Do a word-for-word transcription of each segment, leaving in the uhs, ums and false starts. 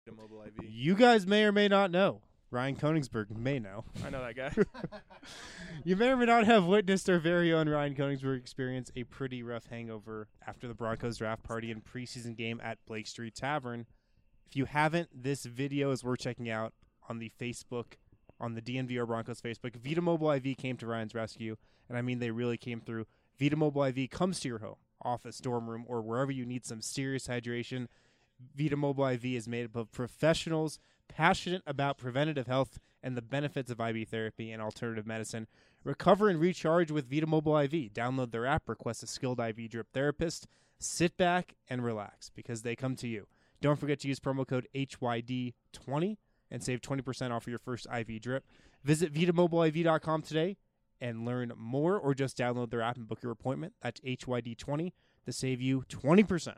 Mobile I V. You guys may or may not know. Ryan Koenigsberg may know. I know that guy. You may or may not have witnessed our very own Ryan Koenigsberg experience a pretty rough hangover after the Broncos draft party and preseason game at Blake Street Tavern. If you haven't, this video is worth checking out on the Facebook, on the D N V R Broncos Facebook. Vita Mobile I V came to Ryan's rescue, and I mean they really came through. Vita Mobile I V comes to your home, office, dorm room, or wherever you need some serious hydration. Vita Mobile I V is made up of professionals passionate about preventative health and the benefits of I V therapy and alternative medicine. Recover and recharge with Vita Mobile I V. Download their app, request a skilled I V drip therapist. Sit back and relax because they come to you. Don't forget to use promo code H Y D twenty and save twenty percent off of your first I V drip. Visit Vita Mobile I V dot com today and learn more, or just download their app and book your appointment. That's H Y D twenty to save you twenty percent.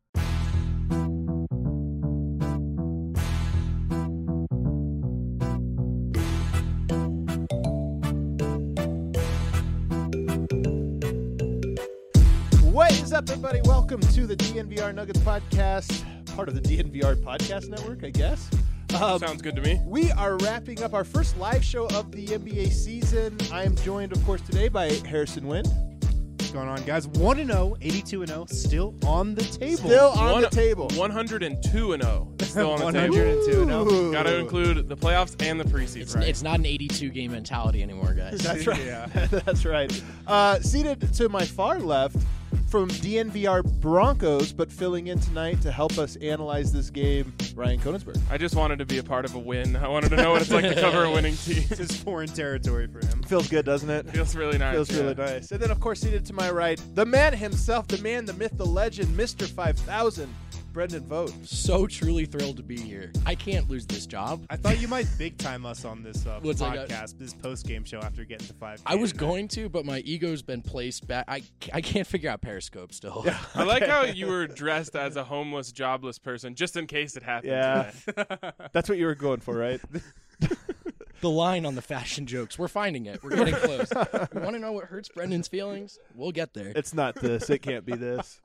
What is up, everybody? Welcome to the D N V R Nuggets podcast, part of the D N V R podcast network, I guess. Um, Sounds good to me. We are wrapping up our first live show of the N B A season. I am joined, of course, today by Harrison Wind. What's going on, guys? one and oh, eighty-two and oh, still on the table. Still on One- the table. one hundred two and oh. Still on the one table. hundred two and oh. Ooh. Got to include the playoffs and the preseason. It's, it's not an eighty-two game mentality anymore, guys. That's right. Yeah. That's right. Uh, seated to my far left from D N V R Broncos, but filling in tonight to help us analyze this game, Ryan Koenigsberg. I just wanted to be a part of a win. I wanted to know what it's like to cover a winning team. This is foreign territory for him. Feels good, doesn't it? Feels really nice. Feels yeah. really nice. And then, of course, seated to my right, the man himself, the man, the myth, the legend, Mister five thousand, Brendan Vogt. So truly thrilled to be here. I can't lose this job. I thought you might big time us on this uh, What's like a- podcast, this post game show after getting to five. I was going to, but my ego's been placed back. I, I can't figure out Periscope still. I like how you were dressed as a homeless, jobless person, just in case it happened. Yeah. today. That's what you were going for, right? The line on the fashion jokes. We're finding it. We're getting close. You want to know what hurts Brendan's feelings? We'll get there. It's not this. It can't be this.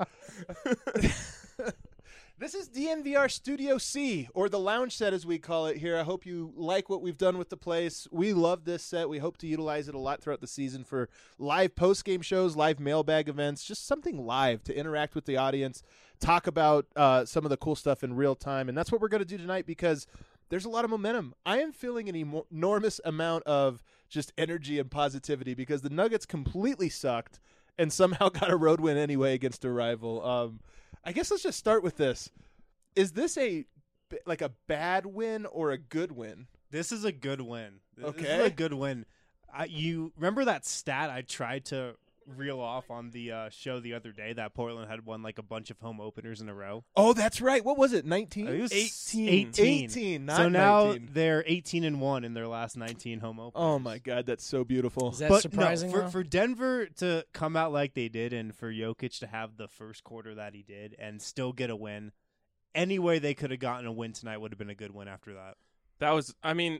This is D N V R Studio C, or the lounge set as we call it here. I hope you like what we've done with the place. We love this set. We hope to utilize it a lot throughout the season for live post-game shows, live mailbag events, just something live to interact with the audience, talk about uh, some of the cool stuff in real time. And that's what we're going to do tonight because there's a lot of momentum. I am feeling an emo- enormous amount of just energy and positivity because the Nuggets completely sucked and somehow got a road win anyway against a rival. Um, I guess let's just start with this. Is this a like a bad win or a good win? This is a good win. This Okay. is a good win. I, you remember that stat I tried to reel off on the uh, show the other day that Portland had won like a bunch of home openers in a row? Oh, that's right. What was it? nineteen? It was eighteen. eighteen. eighteen, not so now nineteen. they're eighteen and one in their last nineteen home openers. Oh my God, that's so beautiful. Is that But surprising? no, for, though? for Denver to come out like they did and for Jokic to have the first quarter that he did and still get a win, any way they could have gotten a win tonight would have been a good win after that. That was, I mean,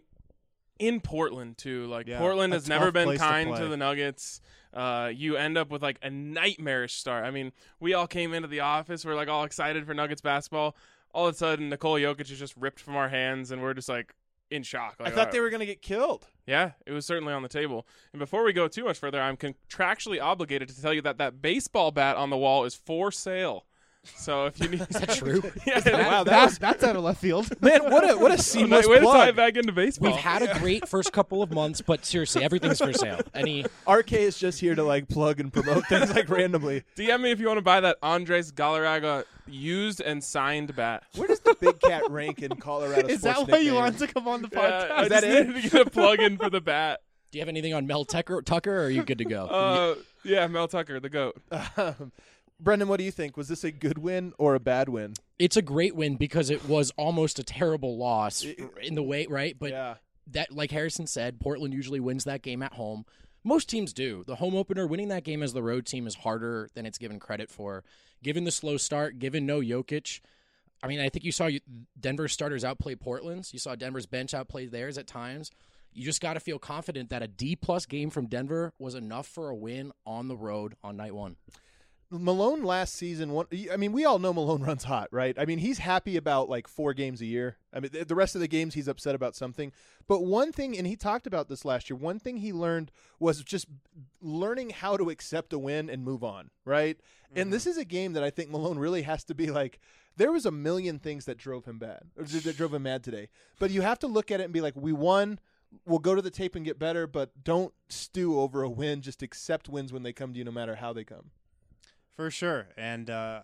in Portland, too. Like, Yeah, Portland a has never tough been place to kind to, play. the Nuggets. Uh, you end up with, like, a nightmarish start. I mean, we all came into the office. We're, like, all excited for Nuggets basketball. All of a sudden, Nikola Jokic is just ripped from our hands, and we're just, like, in shock. I Like, thought uh, they were going to get killed. Yeah, it was certainly on the table. And before we go too much further, I'm contractually obligated to tell you that that baseball bat on the wall is for sale. So if you need, Is that true? yeah, Wow, that That- was that's out of left field. man. What a what a nice seamless way to tie plug. it back into baseball. We've had a great first couple of months, but seriously, everything's for sale. Any R K is just here to like plug and promote things like randomly. D M me if you want to buy that Andres Galarraga used and signed bat. Where does the Big Cat rank in Colorado? Is sports that why you nickname? wanted to come on the Yeah, podcast? I Is that just it? needed to get a plug in for the bat. do you have anything on Mel Tucker, Tucker or are you good to go? Uh, yeah, Mel Tucker, the GOAT. Um, Brendan, what do you think? Was this a good win or a bad win? It's a great win because it was almost a terrible loss in the way, right? But yeah. that, like Harrison said, Portland usually wins that game at home. Most teams do. The home opener, winning that game as the road team is harder than it's given credit for. Given the slow start, given no Jokic, I mean, I think you saw Denver's starters outplay Portland's. You saw Denver's bench outplay theirs at times. You just got to feel confident that a D-plus game from Denver was enough for a win on the road on night one. Malone last season, one, I mean, we all know Malone runs hot, right? I mean, he's happy about like four games a year. I mean, the rest of the games he's upset about something. But one thing, and he talked about this last year, one thing he learned was just learning how to accept a win and move on, right? Mm-hmm. And this is a game that I think Malone really has to be like, there was a million things that drove him bad, or that drove him mad today. But you have to look at it and be like, we won. We'll go to the tape and get better, but don't stew over a win. Just accept wins when they come to you, no matter how they come. For sure. And uh,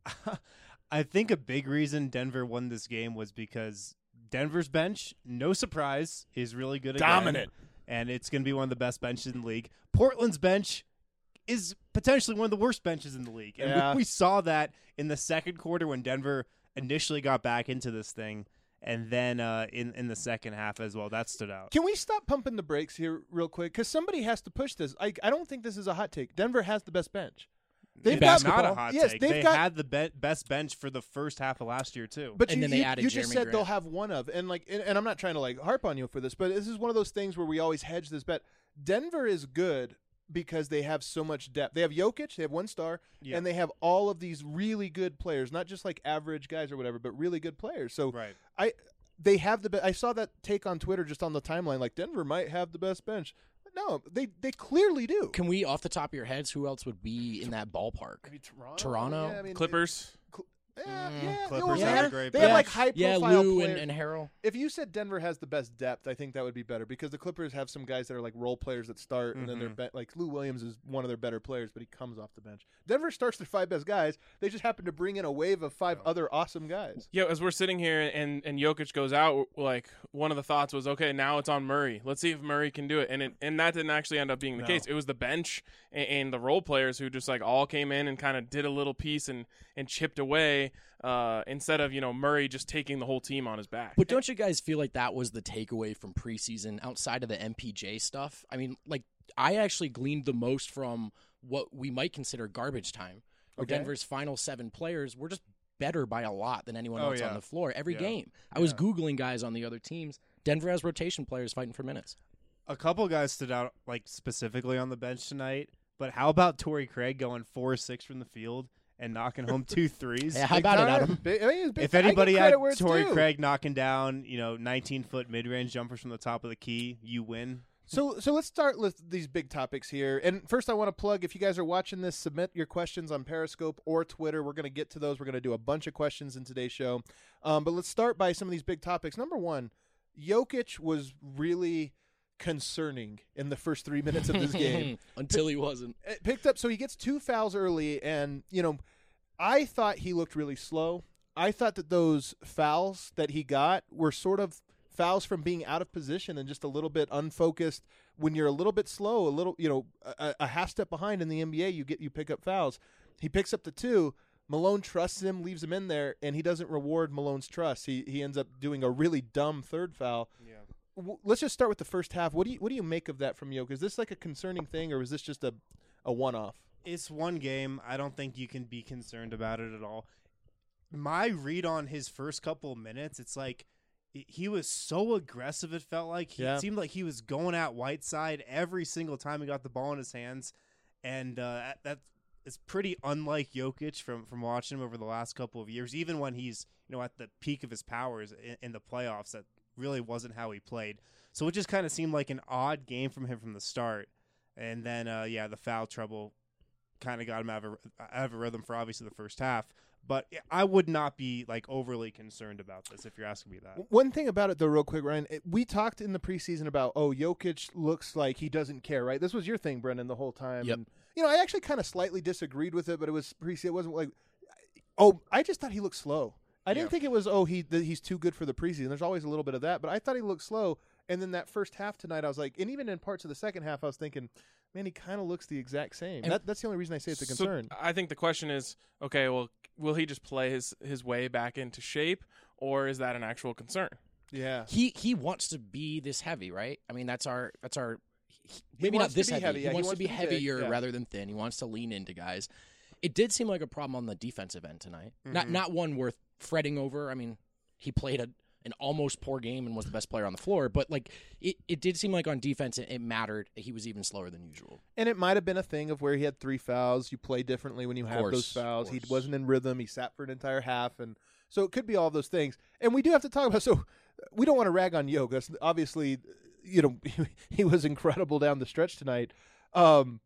I think a big reason Denver won this game was because Denver's bench, no surprise, is really good again. Dominant. And it's going to be one of the best benches in the league. Portland's bench is potentially one of the worst benches in the league. And yeah. we, we saw that in the second quarter when Denver initially got back into this thing. And then uh, in, in the second half as well, that stood out. Can we stop pumping the brakes here real quick? Because somebody has to push this. I, I don't think this is a hot take. Denver has the best bench. They've got not a hot yes, take. They've they got, had the be- best bench for the first half of last year too. But and you, then they you, added you just Jeremy said Grant. they'll have one of, and like, and, and I'm not trying to like harp on you for this, but this is one of those things where we always hedge this bet. Denver is good because they have so much depth. They have Jokic, they have one star, Yeah. and they have all of these really good players, not just like average guys or whatever, but really good players. So right. I, they have the. Be- I saw that take on Twitter just on the timeline, like Denver might have the best bench. No, they they clearly do. Can we, off the top of your heads, who else would be in that ballpark? Maybe Toronto. Toronto? Yeah, I mean, Clippers. Cl- yeah, Mm, yeah, Clippers well, have they a have, great they have bench. like high Yeah, profile Lou players. and, and Harrell. If you said Denver has the best depth, I think that would be better because the Clippers have some guys that are like role players that start, and then they're Mhm. be- like Lou Williams is one of their better players, but he comes off the bench. Denver starts their five best guys. They just happen to bring in a wave of five other awesome guys. Yeah, as we're sitting here and, and Jokic goes out, like one of the thoughts was, okay, now it's on Murray. Let's see if Murray can do it. And it, and that didn't actually end up being the No. case. It was the bench and, and the role players who just like all came in and kind of did a little piece and, and chipped away uh, instead of, you know, Murray just taking the whole team on his back. But don't you guys feel like that was the takeaway from preseason outside of the M P J stuff? I mean, like, I actually gleaned the most from what we might consider garbage time, where Okay. Denver's final seven players were just better by a lot than anyone Oh, else yeah. on the floor every Yeah. game. I was Googling guys on the other teams. Denver has rotation players fighting for minutes. A couple guys stood out, like specifically on the bench tonight. But how about Torrey Craig going four or six from the field and knocking home two threes? Yeah, how Big about it, time. Adam? Big- I mean, it's big- If I give anybody had credit where it's Torrey due. Craig knocking down, you know, nineteen foot mid range jumpers from the top of the key, you win. So, so let's start with these big topics here. And first, I want to plug, if you guys are watching this, submit your questions on Periscope or Twitter. We're going to get to those. We're going to do a bunch of questions in today's show. Um, but let's start by some of these big topics. Number one, Jokic was really concerning in the first three minutes of this game. Until he wasn't. It picked up, so he gets two fouls early, and, you know, I thought he looked really slow. I thought that those fouls that he got were sort of fouls from being out of position and just a little bit unfocused. When you're a little bit slow, a little, you know, a, a half step behind in the N B A, you get you pick up fouls. He picks up the two. Malone trusts him, leaves him in there, and he doesn't reward Malone's trust. He he ends up doing a really dumb third foul. Yeah. W- Let's just start with the first half. What do you what do you make of that from Jokic? Is this like a concerning thing, or is this just a a one off? It's one game. I don't think you can be concerned about it at all. My read on his first couple of minutes, it's like he was so aggressive, it felt like. He, Yeah. It seemed like he was going at Whiteside every single time he got the ball in his hands. And uh, that is pretty unlike Jokic from, from watching him over the last couple of years. Even when he's, you know, at the peak of his powers in, in the playoffs, that really wasn't how he played. So it just kind of seemed like an odd game from him from the start. And then, uh, yeah, the foul trouble kind of got him out of, a, out of a rhythm for obviously the first half. But I would not be like overly concerned about this if you're asking me that. One thing about it, though, real quick, Ryan, it, we talked in the preseason about, oh, Jokic looks like he doesn't care, right? This was your thing, Brendan, the whole time. Yep. And, you know, I actually kind of slightly disagreed with it, but it was preseason. It wasn't like, oh, I just thought he looked slow. I didn't Yeah. think it was, oh, he that he's too good for the preseason. There's always a little bit of that, but I thought he looked slow. And then that first half tonight, I was like, and even in parts of the second half, I was thinking, man, he kind of looks the exact same. And- That, that's the only reason I say it's a So concern. I think the question is, okay, well, will he just play his, his way back into shape, or is that an actual concern? yeah. He he wants to be this heavy, right? I mean, that's our that's our he- He maybe not wants to this be heavy. heavy, He, yeah, he wants wants to be to be big, heavier yeah. rather than thin. He wants to lean into guys. It did seem like a problem on the defensive end tonight. Not Mhm. not one worth fretting over. I mean, he played a an almost poor game and was the best player on the floor. But like it, it did seem like on defense it, it mattered. He was even slower than usual. And it might have been a thing of where he had three fouls. You play differently when you Of have course, those fouls. of He course. wasn't in rhythm. He sat for an entire half, and so it could be all those things. And we do have to talk about. So we don't want to rag on Yoke. That's obviously, you know, he was incredible down the stretch tonight. Um,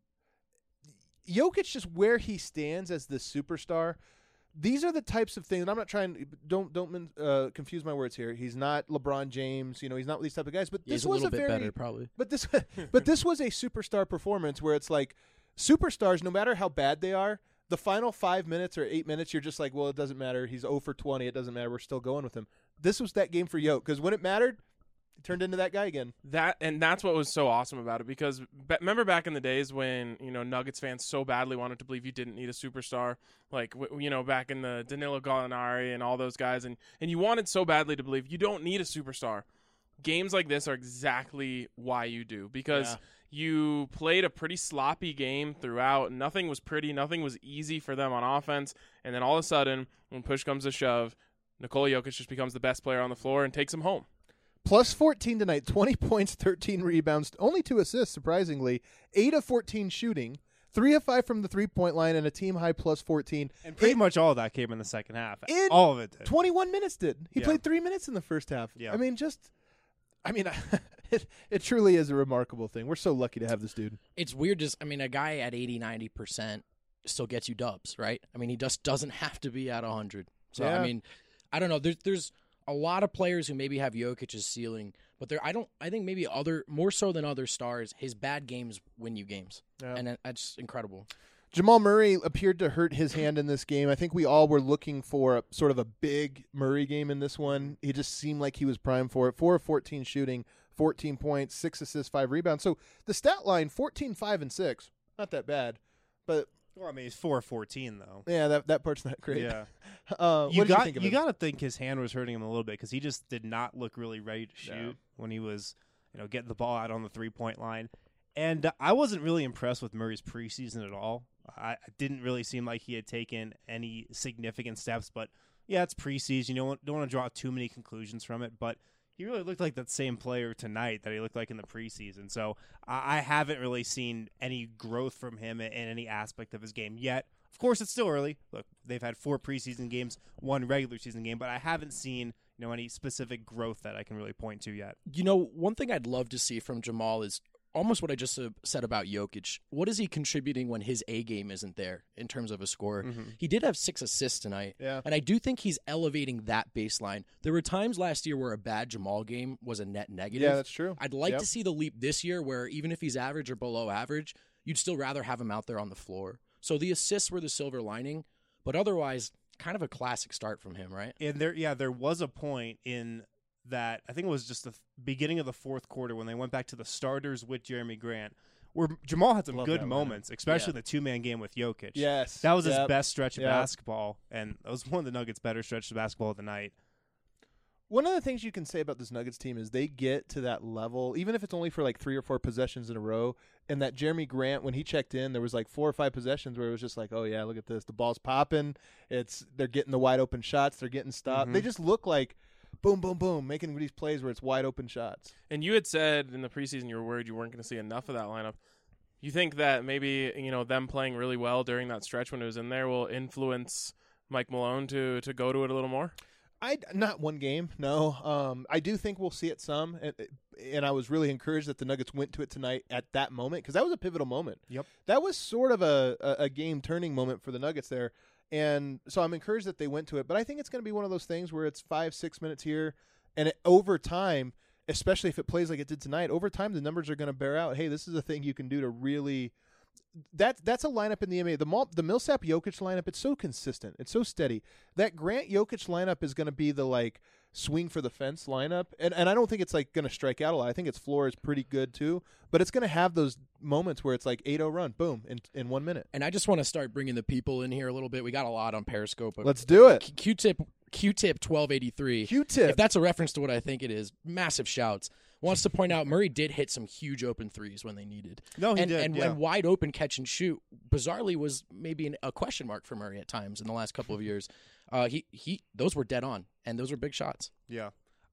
Jokic, just where he stands as the superstar. These are the types of things. And I'm not trying. Don't don't uh, confuse my words here. He's not LeBron James. You know, he's not these type of guys. But Yeah, this he's a was little a bit very. better, probably. But this, but this was a superstar performance where it's like superstars, no matter how bad they are, the final five minutes or eight minutes, you're just like, well, it doesn't matter. He's zero for twenty. It doesn't matter. We're still going with him. This was that game for Yoke because when it mattered, he turned into that guy again. That and that's what was so awesome about it because be, remember back in the days when you know Nuggets fans so badly wanted to believe you didn't need a superstar, like w- you know back in the Danilo Gallinari and all those guys, and and you wanted so badly to believe you don't need a superstar. Games like this are exactly why you do because Yeah. you played a pretty sloppy game throughout. Nothing was pretty, nothing was easy for them on offense, and then all of a sudden, when push comes to shove, Nikola Jokic just becomes the best player on the floor and takes him home. Plus fourteen tonight, twenty points, thirteen rebounds, only two assists, surprisingly, eight of fourteen shooting, three of five from the three-point line, and a team-high plus fourteen. And pretty It- much all of that came in the second half. In all of it did. twenty-one minutes did. He Yeah. played three minutes in the first half. Yeah. I mean, just, I mean, it, it truly is a remarkable thing. We're so lucky to have this dude. It's weird. Just I mean, a guy at eighty, ninety percent still gets you dubs, right? I mean, he just doesn't have to be at one hundred. So Yeah. I mean, I don't know. There's there's a lot of players who maybe have Jokic's ceiling, but there I don't. I think maybe other more so than other stars, his bad games win you games, Yeah. and that- that's incredible. Jamal Murray appeared to hurt his hand in this game. I think we all were looking for a, sort of a big Murray game in this one. He just seemed like he was primed for it. four of fourteen shooting, fourteen points, six assists, five rebounds. So the stat line, fourteen, five, and six. Not that bad. But, Well, I mean, he's four of fourteen though. yeah, that that part's not great. Yeah. Uh, You what did got you think of you him? got to think his hand was hurting him a little bit because he just did not look really ready to shoot No. when he was, you know, getting the ball out on the three point line. And uh, I wasn't really impressed with Murray's preseason at all. I it didn't really seem like he had taken any significant steps. But yeah, it's preseason. You don't don't want to draw too many conclusions from it. But he really looked like that same player tonight that he looked like in the preseason. So I, I haven't really seen any growth from him in, in any aspect of his game yet. Of course, it's still early. Look, they've had four preseason games, one regular season game, but I haven't seen you know any specific growth that I can really point to yet. You know, one thing I'd love to see from Jamal is almost what I just uh, said about Jokic. What is he contributing when his A game isn't there in terms of a score? Mm-hmm. He did have six assists tonight, Yeah. and I do think he's elevating that baseline. There were times last year where a bad Jamal game was a net negative. Yeah, that's true. I'd like Yep. to see the leap this year where even if he's average or below average, you'd still rather have him out there on the floor. So the assists were the silver lining, but otherwise, kind of a classic start from him, right? And there, yeah, there was a point in that I think it was just the th- beginning of the fourth quarter when they went back to the starters with Jeremy Grant, where Jamal had some Love good that lineup. moments, especially Yeah. the two man game with Jokic. Yes. That was Yep. his best stretch of Yep. basketball, and that was one of the Nuggets' better stretches of basketball of the night. One of the things you can say about this Nuggets team is they get to that level, even if it's only for like three or four possessions in a row. And that Jeremy Grant, when he checked in, there was like four or five possessions where it was just like, oh yeah, look at this, the ball's popping. It's they're getting the wide open shots, they're getting stopped. Mhm. They just look like boom, boom, boom, making these plays where it's wide open shots. And you had said in the preseason you were worried you weren't going to see enough of that lineup. You think that maybe you know them playing really well during that stretch when it was in there will influence Mike Malone to to go to it a little more? I not one game, no. Um, I do think we'll see it some, and, and I was really encouraged that the Nuggets went to it tonight at that moment because that was a pivotal moment. Yep. That was sort of a, a, a game turning moment for the Nuggets there, and so I'm encouraged that they went to it. But I think it's going to be one of those things where it's five, six minutes here, and it, over time, especially if it plays like it did tonight, over time the numbers are going to bear out. Hey, this is a thing you can do to really. That that's a lineup in the N B A. The Mal, the Millsap Jokic lineup, it's so consistent. It's so steady. That Grant Jokic lineup is going to be the like swing for the fence lineup, and and I don't think it's like going to strike out a lot. I think its floor is pretty good too, but it's going to have those moments where it's like eight oh run, boom, in in one minute. And I just want to start bringing the people in here a little bit. We got a lot on Periscope. but Let's do it. Q- Q-tip, Q-tip twelve eighty-three. Q-tip. If that's a reference to what I think it is, massive shouts. Wants to point out Murray did hit some huge open threes when they needed. No, he and, did, And yeah. when wide open catch and shoot, bizarrely was maybe an, a question mark for Murray at times in the last couple of years. Uh, he he, those were dead on, and those were big shots. Yeah.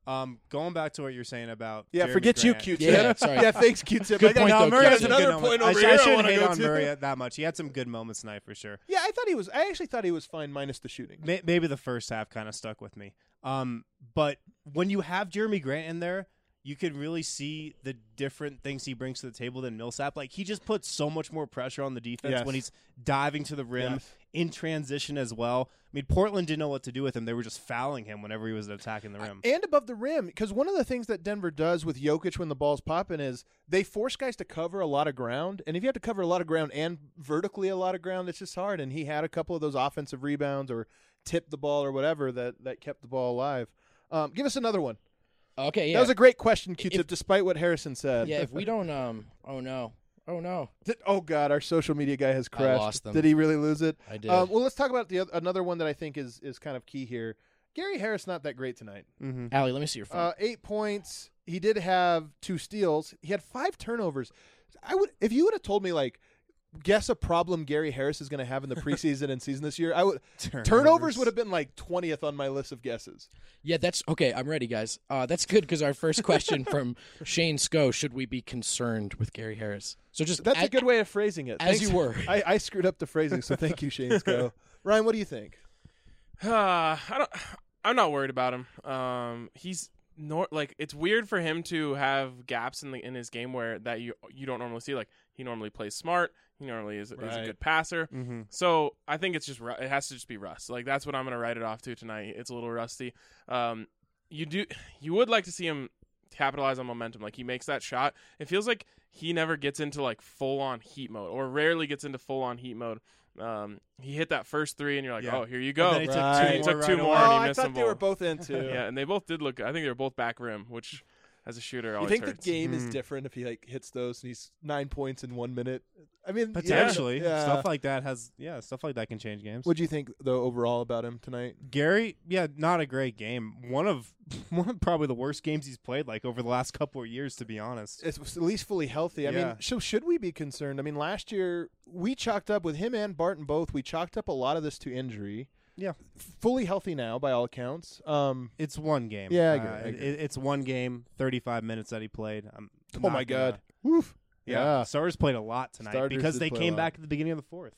Um, going back to what you're saying about Yeah, Jeremy forget you, Grant. Q-Tip. Yeah, sorry. yeah, thanks, Q-Tip. Good I got, point, no, though, Murray has Q-Tip. another Good point moment. over I, here. I shouldn't wanna hate go on to. Murray that much. He had some good moments tonight for sure. Yeah, I thought he was. I actually thought he was fine minus the shooting. May- Maybe the first half kind of stuck with me. Um, but when you have Jeremy Grant in there, you can really see the different things he brings to the table than Millsap. Like, he just puts so much more pressure on the defense Yes. when he's diving to the rim, Yes. in transition as well. I mean, Portland didn't know what to do with him. They were just fouling him whenever he was attacking the rim. And above the rim, because one of the things that Denver does with Jokic when the ball's popping is they force guys to cover a lot of ground. And if you have to cover a lot of ground and vertically a lot of ground, it's just hard. And he had a couple of those offensive rebounds or tipped the ball or whatever that, that kept the ball alive. Um, give us another one. Okay, yeah. That was a great question, Q-Tip, If- despite what Harrison said. yeah, if we don't, um, oh no, oh no, Did- oh, God, our social media guy has crashed. lost them. Did he really lose it? I did. Um, well, let's talk about the oth- another one that I think is, is kind of key here. Gary Harris not that great tonight. Mm-hmm. Allie, let me see your phone. Uh, eight points. He did have two steals. He had five turnovers. I would, if you would have told me, like, guess a problem Gary Harris is going to have in the preseason and season this year, I would turnovers, turnovers would have been like twentieth on my list of guesses. yeah, that's okay. I'm ready, guys. Uh, that's good because our first question from Shane Sco: should we be concerned with Gary Harris? So just That's a- a good way of phrasing it. as Thanks. you were. I, I screwed up the phrasing, so thank you, Shane Sco. Ryan, what do you think? Uh, I don't. I'm not worried about him. Um, he's nor like it's weird for him to have gaps in the in his game where that you you don't normally see. Like, he normally plays smart. He normally is, is a Right. good passer. Mm-hmm. So I think it's just ru- it has to just be rust. Like, that's what I'm gonna write it off to tonight. It's a little rusty. Um, you do you would like to see him capitalize on momentum. Like, he makes that shot. It feels like he never gets into like full on heat mode, or rarely gets into full on heat mode. Um, he hit that first three, and you're like, Yeah. oh, here you go. And then he took Right. two He more took right two away. more, Oh, and he I missed thought them they were both. both in two. Yeah, and they both did look. I think they were both back rim, which as a shooter You always think hurts. the game is Mm. different if he like hits those and he's nine points in one minute? I mean, Potentially, yeah. stuff like that has yeah, stuff like that can change games. What do you think though overall about him tonight? Gary, yeah, not a great game. One of one of probably the worst games he's played like over the last couple of years, to be honest. It's at least fully healthy. I Yeah. mean, so should we be concerned? I mean, last year we chalked up with him and Barton both. We chalked up a lot of this to injury. Yeah. Fully healthy now by all accounts. Um, It's one game. Yeah, I Uh, agree, I agree. it- it's one game, thirty-five minutes that he played. I'm oh not my gonna- God. Woof. Yeah, Yeah. Stars played a lot tonight Starters because did they play a came lot. back at the beginning of the fourth.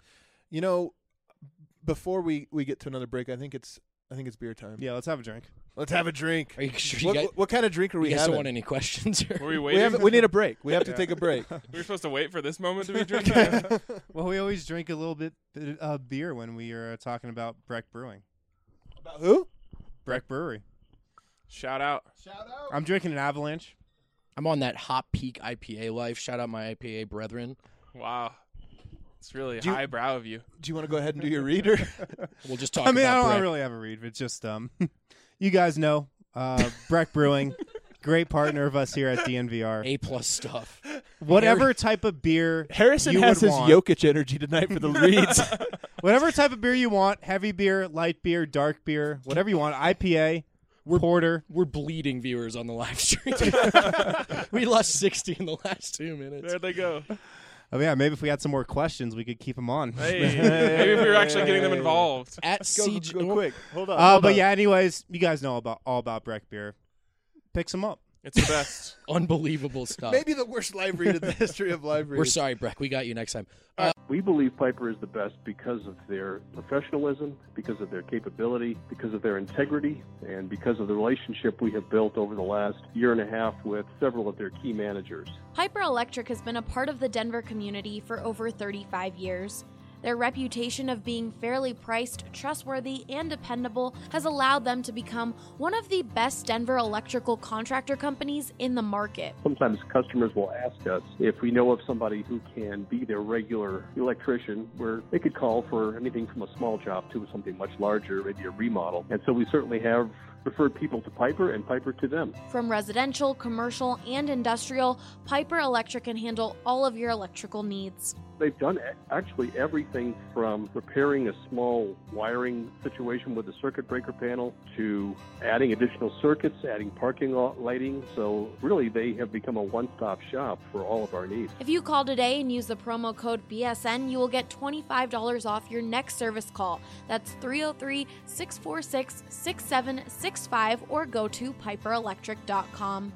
You know, before we, we get to another break, I think it's I think it's beer time. Yeah, let's have a drink. Let's have a drink. Are you sure you What, guys, what kind of drink are you we guys having? don't want any questions? Or? Were we we waiting? have we need a break. We have to Yeah. take a break. we were supposed to wait for this moment to be drinking. Well, we always drink a little bit of uh, beer when we are uh, talking about Breck Brewing. About who? Breck Brewery. Shout out. Shout out. I'm drinking an Avalanche. I'm on that Hop Peak I P A life. Shout out my I P A brethren. Wow. It's really Do you- highbrow of you. Do you want to go ahead and do your reader? We'll just talk I mean, I about don't Brett. really have a read. It's just um, you guys know uh, Breck Brewing, great partner of us here at D N V R. A plus stuff. Whatever type of beer Harrison you has would his want. Jokic energy tonight for the reads. Whatever type of beer you want, heavy beer, light beer, dark beer, whatever you want, I P A, porter. We're bleeding viewers on the live stream. We lost sixty in the last two minutes. There they go. Oh yeah, maybe if we had some more questions, we could keep them on. Hey, maybe if we were actually getting them involved. At go, C G, go quick. Hold on. Uh, hold but on. yeah, anyways, you guys know about all about Breck beer. Pick some up. It's the best. unbelievable stuff. Maybe the worst live read in the history of live reads. We're sorry, Breck. We got you next time. We believe Piper is the best because of their professionalism, because of their capability, because of their integrity, and because of the relationship we have built over the last year and a half with several of their key managers. Piper Electric has been a part of the Denver community for over thirty-five years. Their reputation of being fairly priced, trustworthy, and dependable has allowed them to become one of the best Denver electrical contractor companies in the market. Sometimes customers will ask us if we know of somebody who can be their regular electrician, where they could call for anything from a small job to something much larger, maybe a remodel. And so we certainly have referred people to Piper and Piper to them. From residential, commercial, and industrial, Piper Electric can handle all of your electrical needs. they've done a- actually everything from repairing a small wiring situation with the circuit breaker panel to adding additional circuits, adding parking lot lighting. So really, they have become a one-stop shop for all of our needs. If you call today and use the promo code B S N, you will get twenty-five dollars off your next service call. That's three oh three, six four six, six seven six five or go to piper electric dot com.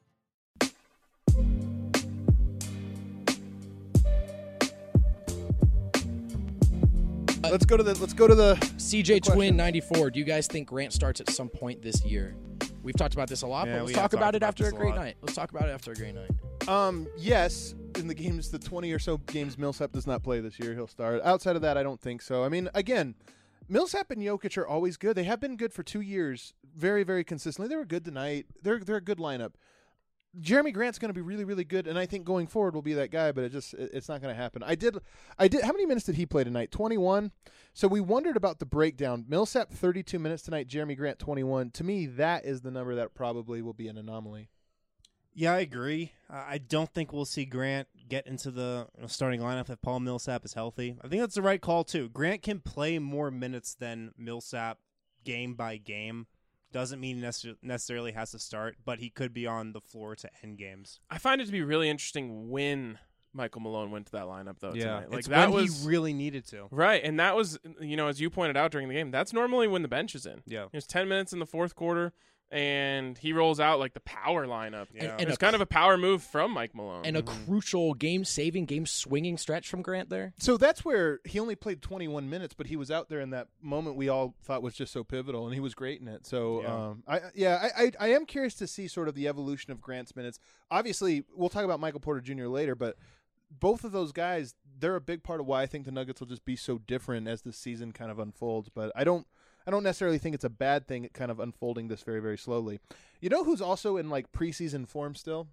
Let's go to the. Let's go to the. C J question. Twin ninety-four. Do you guys think Grant starts at some point this year? We've talked about this a lot, Yeah, but we let's have talk about talked it about after a this a great lot. night. Let's talk about it after a great night. Um, yes, in the games, the twenty or so games Millsap does not play this year, he'll start. Outside of that, I don't think so. I mean, again, Millsap and Jokic are always good. They have been good for two years, very, very consistently. They were good tonight. They're they're a good lineup. Jeremy Grant's going to be really, really good, and I think going forward will be that guy. But it just it, it's not going to happen. I did, I did. How many minutes did he play tonight? twenty-one. So we wondered about the breakdown. Millsap thirty-two minutes tonight. Jeremy Grant twenty-one. To me, that is the number that probably will be an anomaly. Yeah, I agree. Uh, I don't think we'll see Grant get into the you know, starting lineup if Paul Millsap is healthy. I think that's the right call, too. Grant can play more minutes than Millsap game by game. Doesn't mean necess- necessarily has to start, but he could be on the floor to end games. I find it to be really interesting when Michael Malone went to that lineup, though, tonight. Like, it's that when was he really needed to. Right, and that was, you know, as you pointed out during the game, that's normally when the bench is in. Yeah. There's ten minutes in the fourth quarter, and he rolls out like the power lineup. Yeah. And- and It's a- kind of a power move from Mike Malone. And a crucial game-saving, game-swinging stretch from Grant there. So that's where he only played twenty-one minutes, but he was out there in that moment we all thought was just so pivotal, and he was great in it. So, Yeah. um, I yeah, I, I I am curious to see sort of the evolution of Grant's minutes. Obviously, we'll talk about Michael Porter Junior later, but both of those guys, they're a big part of why I think the Nuggets will just be so different as the season kind of unfolds. But I don't. I don't necessarily think it's a bad thing, kind of unfolding this very, very slowly. You know who's also in like preseason form still?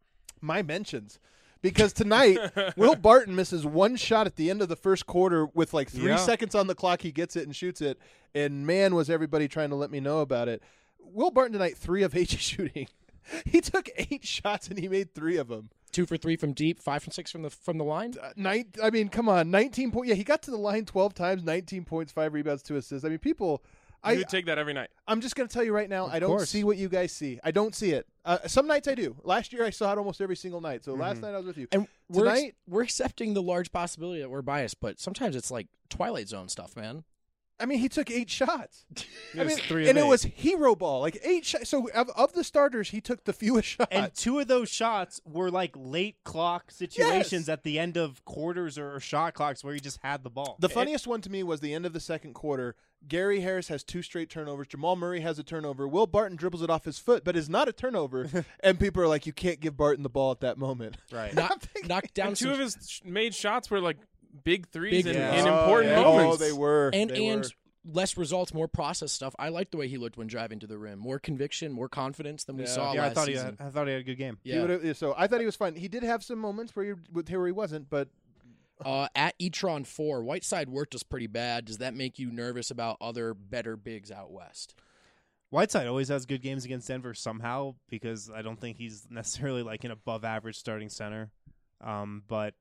My mentions. Because tonight, Will Barton misses one shot at the end of the first quarter with like three Yeah. seconds on the clock. He gets it and shoots it. And man, was everybody trying to let me know about it. Will Barton tonight, three of eight shooting. He took eight shots and he made three of them. Two for three from deep, five from six from the from the line. Uh, nine, I mean, come on, nineteen points. Yeah, he got to the line twelve times, nineteen points, five rebounds, two assists. I mean, people. you I would take that every night. I'm just going to tell you right now, I don't course. see what you guys see. I don't see it. Uh, some nights I do. Last year I saw it almost every single night. So last night I was with you. And we're ex- Tonight- we're accepting the large possibility that we're biased, but sometimes it's like Twilight Zone stuff, man. I mean, he took eight shots. I It was mean, three of and it eight. was hero ball, like eight shots. So of, of the starters, he took the fewest shots. And two of those shots were like late clock situations Yes. at the end of quarters or shot clocks where he just had the ball. The funniest one to me was the end of the second quarter. Gary Harris has two straight turnovers. Jamal Murray has a turnover. Will Barton dribbles it off his foot, but is not a turnover. And people are like, you can't give Barton the ball at that moment. right. Knock, knocked down And two some of his sh- made shots were like big threes Big in, threes. in Oh, important yeah. moments. Oh, they were. and They and were. less results, more process stuff. I liked the way he looked when driving to the rim. More conviction, more confidence than we Yeah. saw yeah, I last thought he season. had, I thought he had a good game. He yeah. would've- so I thought he was fine. He did have some moments where he, where he wasn't, but Uh, at Etron four, Whiteside worked us pretty bad. Does that make you nervous about other better bigs out west? Whiteside always has good games against Denver somehow because I don't think he's necessarily like an above average starting center. Um, but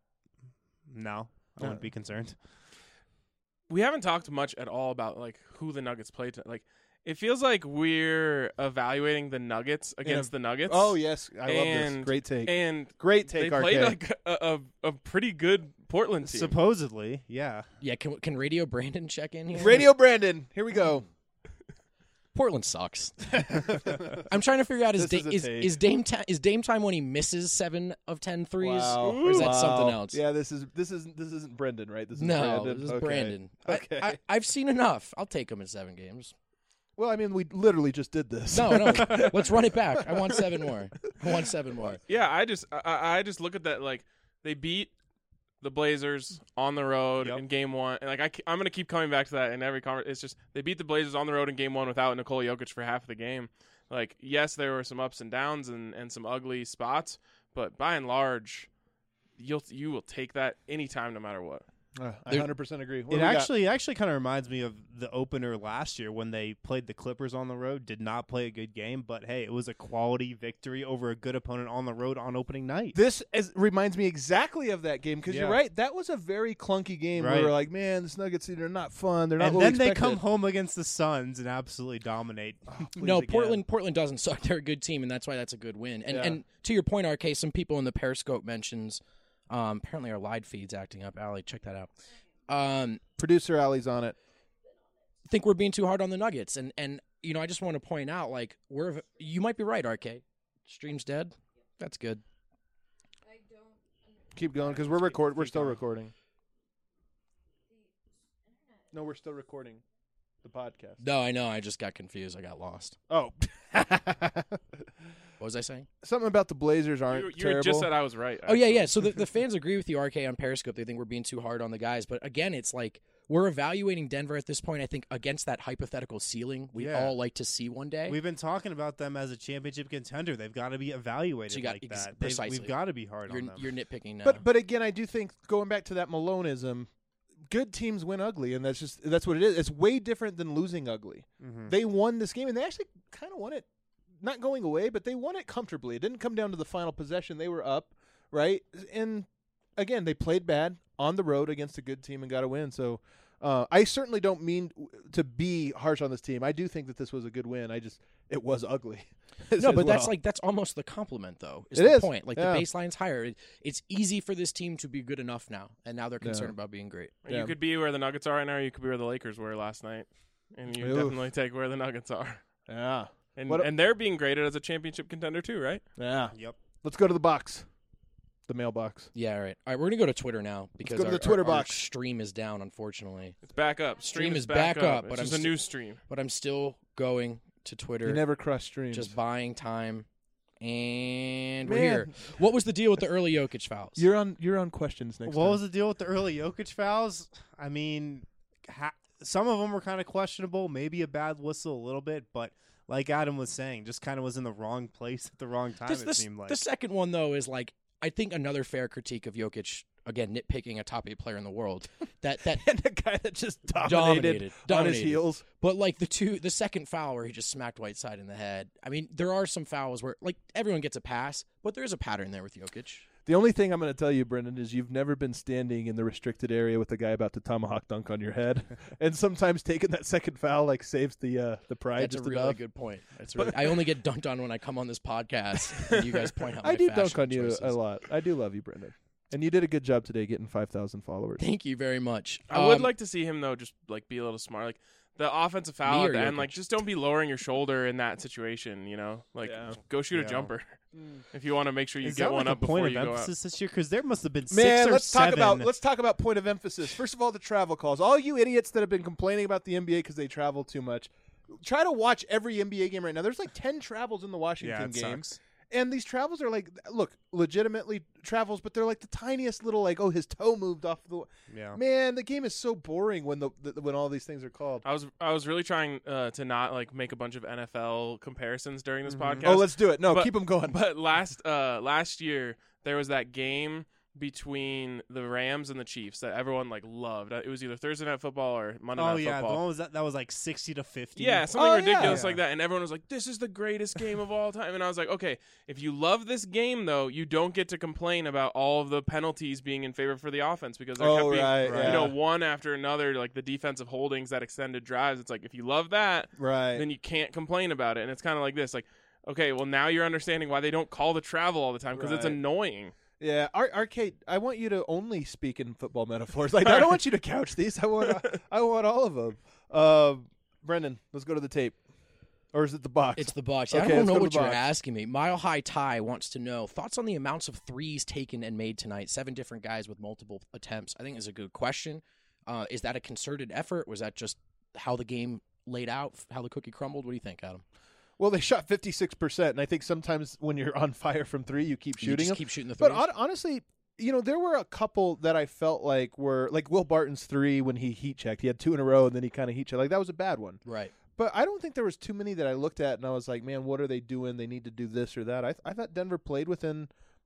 no, I wouldn't be concerned. We haven't talked much at all about like who the Nuggets played. To, like, it feels like we're evaluating the Nuggets against the Nuggets. oh yes, I love this. And- Great take. and Great they take, R K. played like a, a, a pretty good Portland team. Supposedly, yeah. Yeah, can can Radio Brandon check in here? Radio Brandon, here we go. Portland sucks. I'm trying to figure out is This da- is a is, take. is Dame ta- is Dame time when he misses seven of ten threes, Wow. or is that Wow. something else? Yeah, this is this is this isn't Brendan, right? This is No, Brandon. this is Okay. Brandon. Okay. I, I, I've seen enough. I'll take him in seven games. Well, I mean, we literally just did this. No, no. Let's run it back. I want seven more. I want seven more. Yeah, I just I, I just look at that like they beat the Blazers on the road Yep. in game one, and like I, I'm gonna keep coming back to that in every conversation. It's just they beat the Blazers on the road in game one without Nikola Jokic for half of the game. Like, yes, there were some ups and downs and, and some ugly spots, but by and large, you'll you will take that anytime, no matter what. Uh, I There- one hundred percent agree. What It do we got? actually actually kind of reminds me of the opener last year when they played the Clippers on the road. Did not play a good game, but hey, it was a quality victory over a good opponent on the road on opening night. This is, reminds me exactly of that game because Yeah. you're right. That was a very clunky game where Right. we're like, man, this Nuggets they're not fun. They're not. And what we then they expected. come home against the Suns and absolutely dominate. Please No, again. Portland Portland doesn't suck. They're a good team, and that's why that's a good win. And Yeah. and to your point, R K, some people in the Periscope mentions um, apparently our live feed's acting up. Allie, check that out. Um, Producer Alley's on it. think we're being too hard on the Nuggets, and and you know I just want to point out like we're you might be right, R K. Stream's dead. That's good. Keep going because we're record. We're still recording. No, we're still recording the podcast. No, I know. I just got confused. I got lost. Oh, What was I saying? something about the Blazers aren't You, you terrible. just said I was right. Oh yeah, actually. yeah. So the, the fans agree with you, R K, on Periscope. They think we're being too hard on the guys, but again, it's like we're evaluating Denver at this point. I think against that hypothetical ceiling we Yeah. all like to see one day. We've been talking about them as a championship contender. They've got to be evaluated So you got- like ex- that. They've- precisely. We've got to be hard you're, on them. you're nitpicking now. But but again, I do think going back to that Maloneism, good teams win ugly, and that's just that's what it is. It's way different than losing ugly. Mhm. They won this game, and they actually kind of won it, not going away, but they won it comfortably. It didn't come down to the final possession. They were up, right? And again, they played bad on the road against a good team and got a win. So uh, I certainly don't mean to be harsh on this team. I do think that this was a good win. I just it was ugly. as no, but that's well. like that's almost the compliment, though. Is It the is. point? Like Yeah. the baseline's higher. It, it's easy for this team to be good enough now, and now they're concerned Yeah. about being great. You Yeah. could be where the Nuggets are right now, or you could be where the Lakers were last night. And you Oof. definitely take where the Nuggets are. yeah, And What a- and they're being graded as a championship contender too, right? yeah. Yep. Let's go to the box, the mailbox. Yeah, all right. All right, we're gonna go to Twitter now because go to our, the Twitter our- our box. stream is down, unfortunately. It's back up. Stream, Stream is is back up, It's but I'm just a st- new stream. But I'm still going to Twitter. You never cross streams. just buying time, and we're Man. here. What was the deal with the early Jokic fouls? You're on. You're on questions next. What time. was the deal with the early Jokic fouls? I mean, ha- some of them were kind of questionable. Maybe a bad whistle a little bit, but like Adam was saying, just kind of was in the wrong place at the wrong time. This- it this- seemed like. The second one, though, is like I think another fair critique of Jokic. Again, nitpicking a top eight player in the world. That that and a guy that just dominated, dominated, on his dominated. heels. But like the two, the second foul where he just smacked Whiteside in the head. I mean, there are some fouls where like everyone gets a pass, but there is a pattern there with Jokic. The only thing I'm going to tell you, Brendan, is you've never been standing in the restricted area with the guy about to tomahawk dunk on your head, and sometimes taking that second foul like saves the uh, the pride That's a just really enough. good point. That's really. I only get dunked on when I come on this podcast. And you guys point out. My I do fashion dunk on you choices. a lot. I do love you, Brendan, and you did a good job today getting five thousand followers. Thank you very much. I would Um, like to see him though, just like be a little smart. Like the offensive Me foul or at the end, Jokic? like just don't be lowering your shoulder in that situation. You know, like Yeah. go shoot Yeah. a jumper if you want to make sure you Is get that one like up a point before of you go out. emphasis this year? Because there must have been Man, six or let's seven. talk about let's talk about point of emphasis. First of all, the travel calls. All you idiots that have been complaining about the N B A because they travel too much, try to watch every N B A game right now. There's like ten travels in the Washington yeah, it game. sucks. And these travels are like, look, legitimately travels, but they're like the tiniest little, like, oh, his toe moved off the. Yeah. Man, the game is so boring when the, the when all these things are called. I was I was really trying uh, to not like make a bunch of N F L comparisons during this podcast. Oh, let's do it. No, But- keep them going. But last uh last year there was that game between the Rams and the Chiefs that everyone like loved. It was either Thursday Night Football or Monday Oh Night yeah, the Football. one was that that was like sixty to fifty. Yeah, something Oh, ridiculous yeah. like that. And everyone was like, this is the greatest game of all time. And I was like, okay, if you love this game, though, you don't get to complain about all of the penalties being in favor for the offense because there Oh, kept being, right, you yeah. know, one after another, like the defensive holdings that extended drives. It's like, if you love that, Right. then you can't complain about it. And it's kind of like this, like, okay, well, now you're understanding why they don't call the travel all the time because it's Right. annoying. Yeah, Ar- Arcade. I want you to only speak in football metaphors. Like I don't want you to couch these. I want. I want all of them. Uh, Brendan, let's go to the tape, or is it the box? It's the box. Okay, I don't let's know go to what the you're box. asking me. Mile High Ty wants to know thoughts on the amounts of threes taken and made tonight. Seven different guys with multiple attempts. I think is a good question. Uh, is that a concerted effort? Was that just how the game laid out, how the cookie crumbled? What do you think, Adam? Well, they shot fifty-six percent, and I think sometimes when you're on fire from three, you keep You shooting just them. keep shooting the threes. But hon- honestly, you know, there were a couple that I felt like were like Will Barton's three when he heat checked. He had two in a row, and then he kind of heat checked. Like that was a bad one. right. But I don't think there was too many that I looked at and I was like, man, what are they doing? They need to do this or that. I th- I thought Denver played within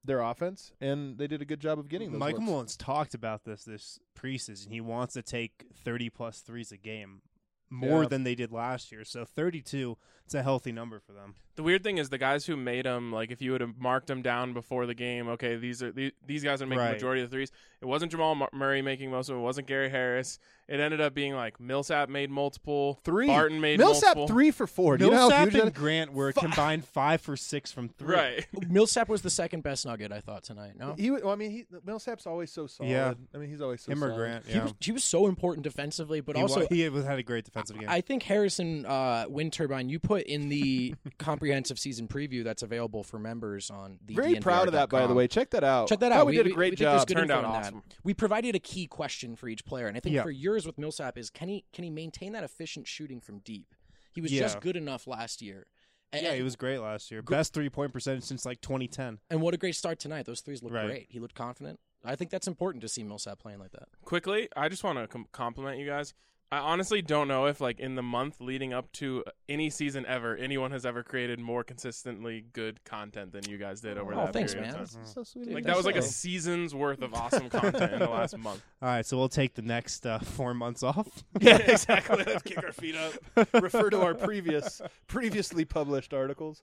their offense, and they did a good job of getting those Michael looks. Mullins talked about this this preseason. He wants to take thirty plus threes a game, more Yeah. than they did last year. So thirty-two, it's a healthy number for them. The weird thing is the guys who made them, like if you would have marked them down before the game, okay, these are these, these guys are making Right. the majority of the threes. It wasn't Jamal Mur- Murray making most of it. It wasn't Gary Harris. It ended up being like Millsap made multiple, Three. Barton made Millsap multiple. three for four. Do you know how Millsap huge and that- Grant were Fu- combined five for six from three. Right. Millsap was the second best Nugget, I thought, tonight. No? He, well, I mean, he, Millsap's always so solid. Yeah. I mean, he's always so Him or solid. Grant. He, Yeah. was, he was so important defensively, but he, also wa- he was, had a great defensive game. I think Harrison uh, Wind Turbine, you put in the comprehensive season preview that's available for members on the Very D N V R proud of that, by the dot com. way. Check that out. Check that Thought out. We, did a great we think job. there's good Turned info out in that. awesome. We provided a key question for each player, and I think Yeah. for yours with Millsap is can he can he maintain that efficient shooting from deep? He was Yeah. just good enough last year. And, yeah, he was great last year. Gr- Best three point percentage since like twenty ten. and what a great start tonight. Those threes looked Right. great. He looked confident. I think that's important to see Millsap playing like that. Quickly, I just want to com- compliment you guys. I honestly don't know if, like, in the month leading up to any season ever, anyone has ever created more consistently good content than you guys did over Oh, that thanks, period man. of time. That's so sweet. Dude, Like, that's that was like a so- season's worth of awesome content in the last month. All right, so we'll take the next uh, four months off. Yeah, exactly. Let's kick our feet up. Refer to our previous, previously published articles.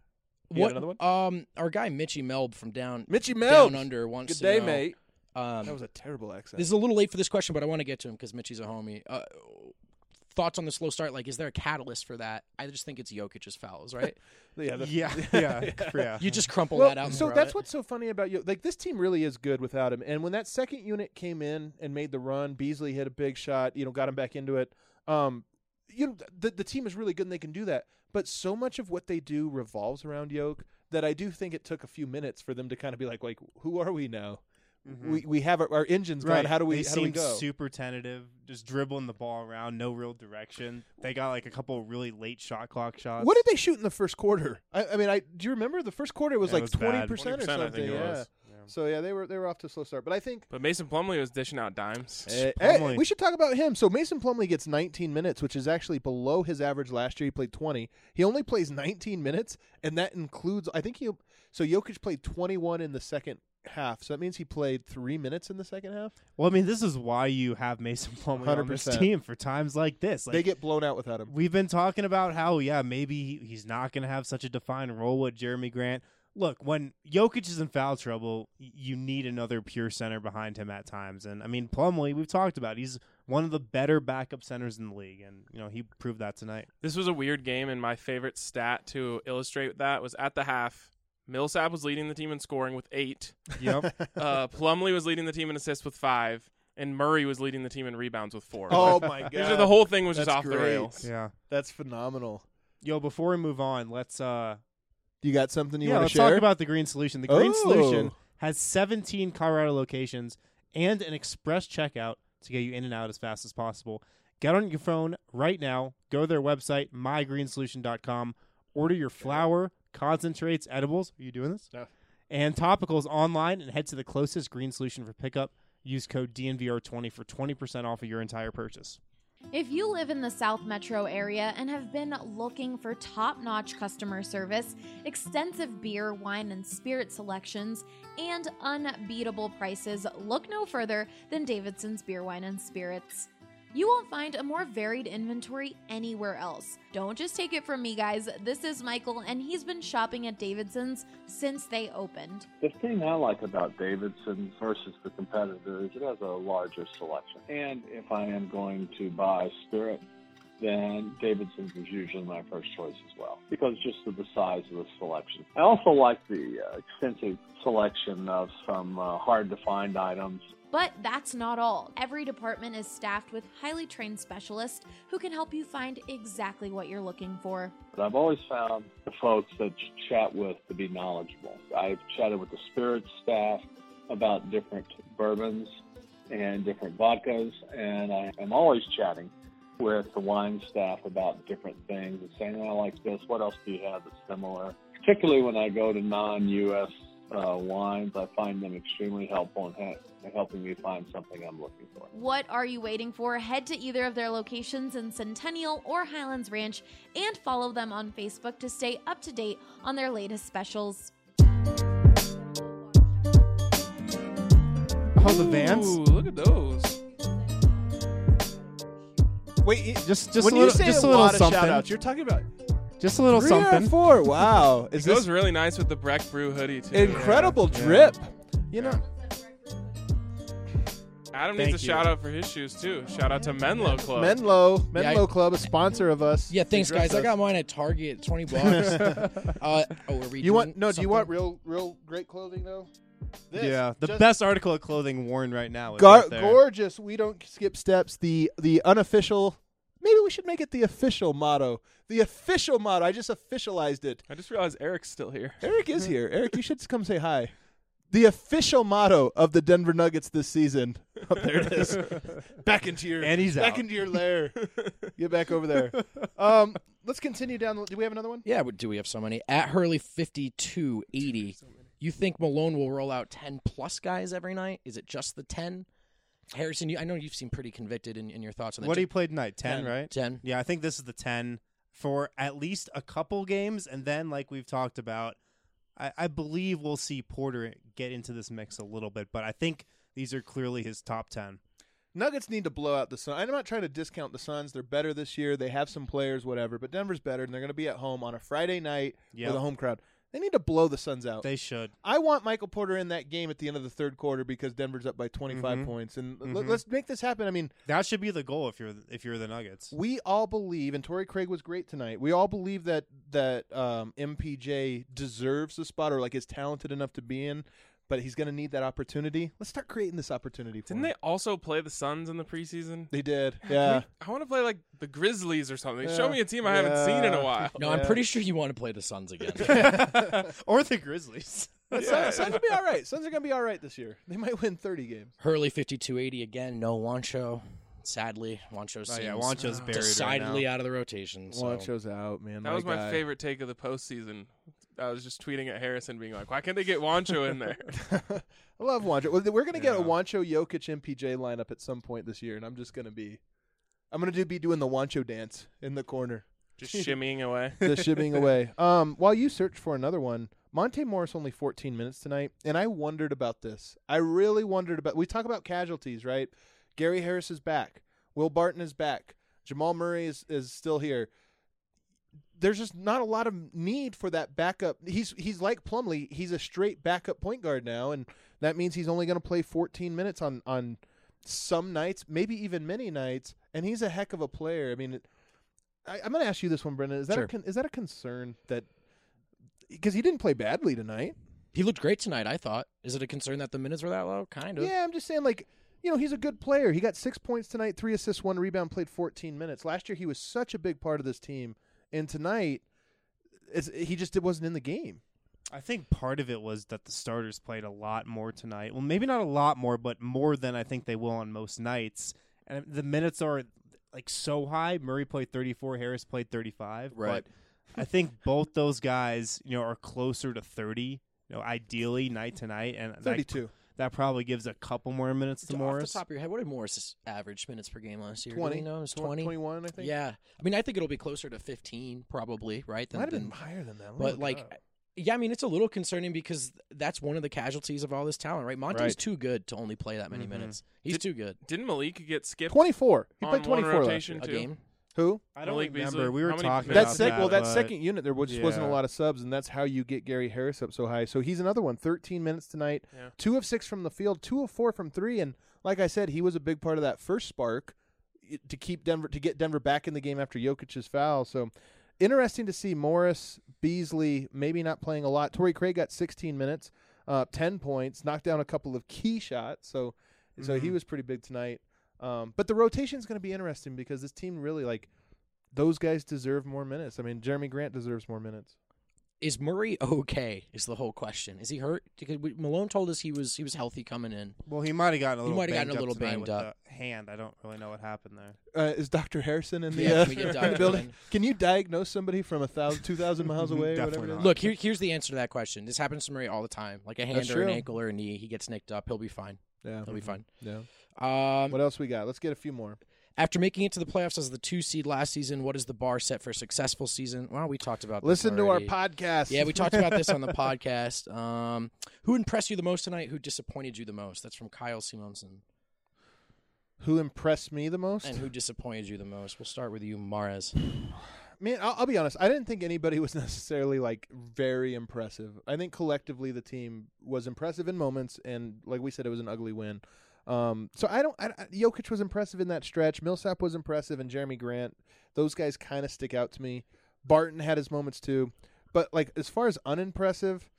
You What got another one? Um, our guy Mitchy Melb from down Mitchy down Melb. under wants Good to day, know, mate. Um, That was a terrible accent. This is a little late for this question, but I want to get to him because Mitchy's a homie. Uh, thoughts on the slow start? Like, is there a catalyst for that? I just think it's Jokic's fouls, right? yeah, the- yeah, yeah, yeah. You just crumple Well, that out. And so throw that's it. what's so funny about you. Like, this team really is good without him. And when that second unit came in and made the run, Beasley hit a big shot. You know, got him back into it. Um, you know, the the team is really good and they can do that. But so much of what they do revolves around Yoke that I do think it took a few minutes for them to kind of be like, like, who are we now? Mhm. We we have our, our engines Right. gone. How do we They how do we seemed go? super tentative, just dribbling the ball around, no real direction. They got like a couple of really late shot clock shots. What did they shoot in the first quarter? I, I mean, I do you remember the first quarter was Yeah, it like was twenty bad. percent or twenty percent, I something. think it Yeah. was. So yeah, they were they were off to a slow start. But I think But Mason Plumlee was dishing out dimes. Uh, Plumlee. hey, we should talk about him. So Mason Plumlee gets nineteen minutes, which is actually below his average last year. He played twenty. He only plays nineteen minutes, and that includes I think he. So Jokic played twenty-one in the second half. So that means he played three minutes in the second half. Well, I mean, this is why you have Mason Plumlee on this one hundred percent. team for times like this. Like, they get blown out without him. We've been talking about how, yeah, maybe he- he's not going to have such a defined role with Jeremy Grant. Look, when Jokic is in foul trouble, y- you need another pure center behind him at times. And, I mean, Plumlee, we've talked about, he's one of the better backup centers in the league. And, you know, he proved that tonight. This was a weird game, and my favorite stat to illustrate that was at the half. Millsap was leading the team in scoring with eight. Yep. Uh, Plumlee was leading the team in assists with five, and Murray was leading the team in rebounds with four. Oh my god! Usually the whole thing was just That's off the great. rails. yeah. That's phenomenal. Yo, before we move on, let's uh, You got something you yeah, want let's to share? talk about the Green Solution. The Green Oh. Solution has seventeen Colorado locations and an express checkout to get you in and out as fast as possible. Get on your phone right now. Go to their website, my green solution dot com. Order your flour, concentrates, edibles. Are you doing this? No. And topicals online and head to the closest Green Solution for pickup. Use code D N V R twenty for twenty percent off of your entire purchase. If you live in the South Metro area and have been looking for top-notch customer service, extensive beer, wine, and spirit selections, and unbeatable prices, look no further than Davidson's Beer, Wine, and Spirits. You won't find a more varied inventory anywhere else. Don't just take it from me, guys. This is Michael, and he's been shopping at Davidson's since they opened. The thing I like about Davidson versus the competitor is it has a larger selection. And if I am going to buy spirit, then Davidson's is usually my first choice as well, because just of the size of the selection. I also like the uh, extensive selection of some uh, hard-to-find items. But that's not all. Every department is staffed with highly trained specialists who can help you find exactly what you're looking for. But I've always found the folks that you chat with to be knowledgeable. I've chatted with the spirits staff about different bourbons and different vodkas, and I am always chatting with the wine staff about different things and saying, oh, I like this, what else do you have that's similar? Particularly when I go to non-U S uh, wines, I find them extremely helpful in ha- helping me find something I'm looking for. What are you waiting for? Head to either of their locations in Centennial or Highlands Ranch and follow them on Facebook to stay up to date on their latest specials. Oh, the Vans. Ooh, look at those. Wait, it- Just, just when a little, you say just a, a little lot of something. shout outs, you're talking about Just a little three something. or four. Wow. Is It goes this really nice with the Breck Brew hoodie too. incredible Yeah. drip? You know, Adam Thank needs a you. shout out for his shoes too. Shout out to Menlo Club. Menlo, Yeah, Menlo I- Club, a sponsor of us. Yeah, thanks, They dress guys. I us. got mine at Target, twenty bucks. uh, oh, are we You want doing no? Do you something? want real, real great clothing though? This, Yeah, the just best article of clothing worn right now. Is gar- right there. gorgeous. We don't skip steps. The the unofficial. Maybe we should make it the official motto. The official motto. I just officialized it. I just realized Eric's still here. Eric is here. Eric, you should come say hi. The official motto of the Denver Nuggets this season. Oh, there it is. Back into your And he's back out. into your lair. Get back over there. Um, let's continue down. The, do we have another one? Yeah, but do we have so many? At Hurley fifty-two eighty. You think Malone will roll out ten plus guys every night? Is it just the ten? Harrison, you, I know you've seemed pretty convicted in, in your thoughts on that. What he played tonight? Ten, ten. right? ten? Yeah, I think this is the ten for at least a couple games, and then, like we've talked about, I, I believe we'll see Porter get into this mix a little bit, but I think these are clearly his top ten. Nuggets need to blow out the Suns. I'm not trying to discount the Suns. They're better this year. They have some players, whatever. But Denver's better, and they're going to be at home on a Friday night Yep. with a home crowd. They need to blow the Suns out. They should. I want Michael Porter in that game at the end of the third quarter because Denver's up by twenty-five Mhm. points, and l- Mhm. let's make this happen. I mean, That should be the goal if you're if you're the Nuggets. we all believe, and Torrey Craig was great tonight. We all believe that that um, M P J deserves the spot, or like is talented enough to be in, but he's going to need that opportunity. Let's start creating this opportunity for Didn't him. they also play the Suns in the preseason? They did, Can yeah. we- I want to play like the Grizzlies or something. Yeah. Show me a team I haven't seen in a Yeah. while. No, I'm Yeah. pretty sure you want to play the Suns again. Or the Grizzlies. But Yeah. Suns, Suns will be all right. Suns are going to be all right this year. They might win thirty games. Hurley fifty-two eighty again. No Wancho. Sadly, Wancho seems Oh, yeah, Wancho's buried decidedly right now. out of the rotation. So. Wancho's out, man. That was my guy. favorite take of the postseason. I was just tweeting at Harrison, being like, "Why can't they get Wancho in there?" I love Wancho. Well, We're going to get a Yeah. Wancho, Jokic, M P J lineup at some point this year, and I'm just going to be, I'm going to do be doing the Wancho dance in the corner, Just shimmying away. the shipping away. Um, while you search for another one, Monte Morris only fourteen minutes tonight, and I wondered about this. I really wondered about. We talk about casualties, right? Gary Harris is back. Will Barton is back. Jamal Murray is, is still here. There's just not a lot of need for that backup. He's he's like Plumlee. He's a straight backup point guard now, and that means he's only going to play fourteen minutes on, on some nights, maybe even many nights. And he's a heck of a player. I mean, it, I, I'm going to ask you this one, Brendan. Is that Sure. a con, is that a concern that because he didn't play badly tonight? He looked great tonight, I thought. Is it a concern that the minutes were that low? Kind of. Yeah, I'm just saying, like, you know, he's a good player. He got six points tonight, three assists, one rebound, played fourteen minutes. Last year, he was such a big part of this team. And tonight, it's, he just it wasn't in the game. I think part of it was that the starters played a lot more tonight. Well, maybe not a lot more, but more than I think they will on most nights. And the minutes are like so high. Murray played thirty-four, Harris played thirty-five. Right. But I think both those guys, you know, are closer to thirty. You know, ideally night to night, and that, thirty-two. that probably gives a couple more minutes to Off Morris. the top of your head, what did Morris average minutes per game last year? Do twenty. we know? It was Tw- twenty? twenty-one, I think. Yeah. I mean, I think it'll be closer to fifteen, probably, right? Than, Might have than- been higher than that. Let me But, look like, it up. yeah, I mean, it's a little concerning because that's one of the casualties of all this talent, right? Monte's Right. too good to only play that many Mhm. minutes. He's Did- too good. Didn't Malik get skipped twenty-four. He on played one twenty-four last rotation year. A too? game? Who? I don't Malik remember. Beasley? We were How many talking minutes? That about sec- that. well, that but- second unit there was- just wasn't a Yeah. lot of subs, and that's how you get Gary Harris up so high. So he's another one. thirteen minutes tonight, Yeah. two of six from the field, two of four from three, and like I said, he was a big part of that first spark i- to keep Denver to get Denver back in the game after Jokic's foul. So interesting to see Morris, Beasley maybe not playing a lot. Torrey Craig got sixteen minutes, uh, ten points, knocked down a couple of key shots. So so he Mhm. was pretty big tonight. Um, but the rotation is going to be interesting because this team really like. Those guys deserve more minutes. I mean, Jeremy Grant deserves more minutes. Is Murray okay? Is the whole question. Is he hurt? Because we- Malone told us he was he was healthy coming in. Well, he might have gotten a He little. might have gotten banged a little up tonight banged with up. the hand. I don't really know what happened there. Uh, is Doctor Harrison in the, Yeah, uh, can we get in the Doctor building? in? Can you diagnose somebody from a thousand, two thousand miles away or whatever? Definitely it is? not. Look, here, here's the answer to that question. This happens to Murray all the time. Like a hand That's or an true. ankle or a knee, he gets nicked up. He'll be fine. Yeah, He'll be fine. yeah. Um, What else we got? Let's get a few more. After making it to the playoffs as the two seed last season, what is the bar set for a successful season? Well, we talked about this Listen to our already. podcast. Yeah, we talked about this on the podcast. Um, who impressed you the most tonight? Who disappointed you the most? That's from Kyle Simonson. Who impressed me the most? And who disappointed you the most? We'll start with you, Mares. Man, I'll, I'll be honest. I didn't think anybody was necessarily like very impressive. I think collectively the team was impressive in moments, and like we said, it was an ugly win. Um, so I don't. I, I, Jokic was impressive in that stretch. Millsap was impressive, and Jeremy Grant. Those guys kind of stick out to me. Barton had his moments too, but like as far as unimpressive,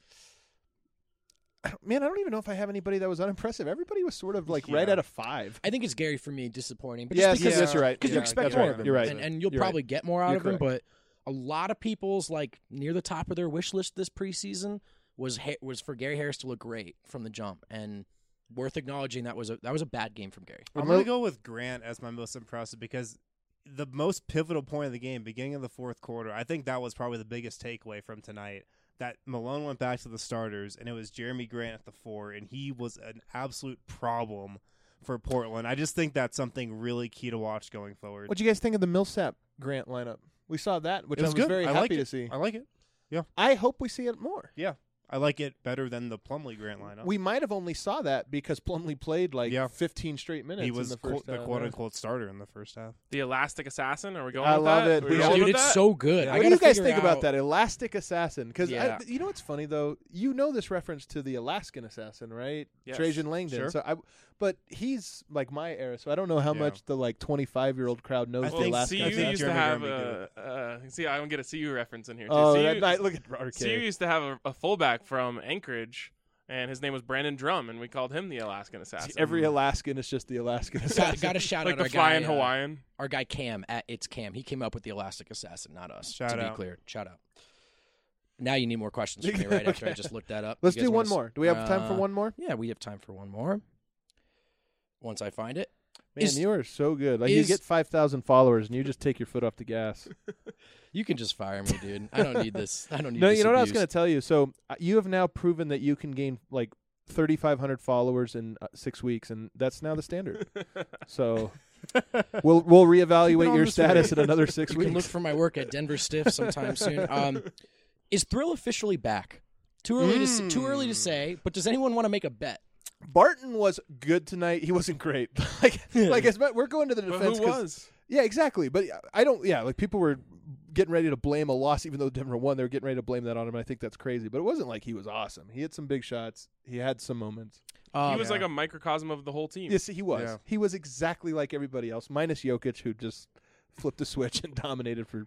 I don't, man, I don't even know if I have anybody that was unimpressive. Everybody was sort of like Yeah. right at a five. I think it's Gary for me, disappointing. But Yes, just because yes, you're right. Because you Yeah, expect that's more right. of him. You're right. And, and you'll You're probably right. get more out You're of him, correct. but a lot of people's, like, near the top of their wish list this preseason was ha- was for Gary Harris to look great from the jump. And worth acknowledging that was a that was a bad game from Gary. I'm going to go with Grant as my most impressive because the most pivotal point of the game, beginning of the fourth quarter, I think that was probably the biggest takeaway from tonight. That Malone went back to the starters, and it was Jeremy Grant at the four, and he was an absolute problem for Portland. I just think that's something really key to watch going forward. What do you guys think of the Millsap Grant lineup? We saw that, which It I was was good. very I happy like to it. see. I like it. I hope we see it more. Yeah. I like it better than the Plumlee Grant lineup. We might have only saw that because Plumlee played like Yeah. fifteen straight minutes. he was in the, quote, first the half. quote-unquote starter in the first half. The Elastic Assassin. Are we going I with love that? it. Are we We rolling should. with Dude, it's that? so good. Yeah. I What do gotta you guys figure think about out- that Elastic Assassin? Because Yeah. you know what's funny though. You know this reference to the Alaskan Assassin, right? Yes. Trajan Langdon. Sure. So I, but he's like my era, so I don't know how Yeah. much the like twenty-five year old crowd knows I the Well, think Alaskan C U I think used Assassin. to Jeremy have Grant a. Uh, see, I don't get a C U reference in here. Oh, C U, that night, look at R K. C U used to have a, a fullback from Anchorage, and his name was Brandon Drum, and we called him the Alaskan Assassin. Every Alaskan is just the Alaskan Assassin. Got, got to shout like out the our flying guy, uh, Hawaiian. our guy Cam at It's Cam. He came up with the Elastic Assassin, not us. Shout to be out. clear, shout out. Now you need more questions from me, right? After I Okay. just looked that up. Let's You guys do wanna one s- more. Do we have time for uh, one more? Yeah, we have time for one more. Once I find it. Man, is- you are so good. Like is- you get five thousand followers and you just take your foot off the gas. You can just fire me, dude. I don't need this. I don't need No, this you know what I was abuse. going to tell you. So uh, you have now proven that you can gain like thirty-five hundred followers in uh, six weeks, and that's now the standard. So we'll we'll Keep it reevaluate on your this status rate. in another six You can look weeks. for my work at Denver Stiff sometime soon. Um, is Thrill officially back? Too early to s- too early to Mm. say, but does anyone want to make a bet? Barton was good tonight. He wasn't great. like like as much, we're going to the But defense. who 'cause- was? Yeah, exactly. But I don't. Yeah, like people were getting ready to blame a loss, even though Denver won. They were getting ready to blame that on him. And I think that's crazy. But it wasn't like he was awesome. He had some big shots. He had some moments. Um, He was yeah. like a microcosm of the whole team. Yes, he was. Yeah. He was exactly like everybody else, minus Jokic, who just flipped the switch and dominated for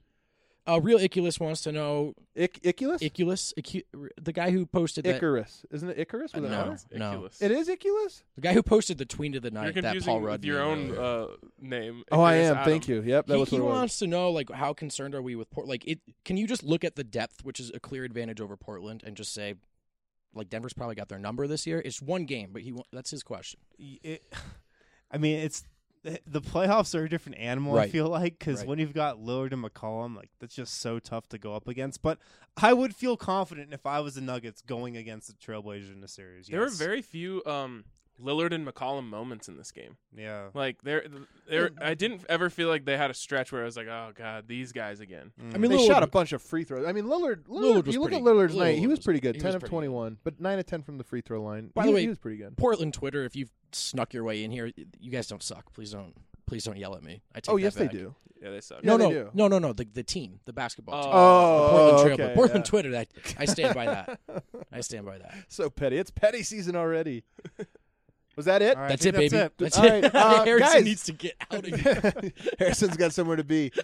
uh, Real Iculus wants to know Ik- Iculus. Iculus, Icu- the guy who posted that. Icarus, isn't it Icarus? Uh, With an no. R? No. Ridiculous. It is Iculus. The guy who posted the tweet of the You're night that confusing Paul with Rudd your made own earlier. uh, name. Oh, I Icarus am. Adam. Thank you. Yep, that he was he what it was. wants to know like how concerned are we with Port? Like it? Can you just look at the depth, which is a clear advantage over Portland, and just say, like Denver's probably got their number this year? It's one game, but he wa- that's his question. It, I mean, it's the playoffs are a different animal. I Right. feel like because Right. when you've got Lillard and McCollum, like that's just so tough to go up against. But I would feel confident if I was the Nuggets going against the Trailblazers in a series. There were yes. very few um, Lillard and McCollum moments in this game. yeah. Like there, there. I didn't ever feel like they had a stretch where I was like, "Oh God, these guys again." Mm. I mean, They Lillard- shot a bunch of free throws. I mean, Lillard. Lillard, Lillard was you look pretty- at Lillard's night; Lillard he was was- pretty good. he Ten was of pretty twenty-one, but nine of ten from the free throw line. By he, the way, he was pretty good. Portland Twitter, if you've snuck your way in here, you guys don't suck. Please don't. Please don't yell at me. I take Oh that yes, they back. do. Yeah, they suck. Yeah, No, they no, do. no, no, no. The the team, the basketball team. Oh, the Portland oh, Trail, okay, Portland yeah. Twitter. That I stand by that. I stand by that. So petty. It's petty season already. Was that it? All right, I That's think it, baby. That's it. That's All it. right, uh, Harrison guys. needs to get out of here. Harrison's got somewhere to be.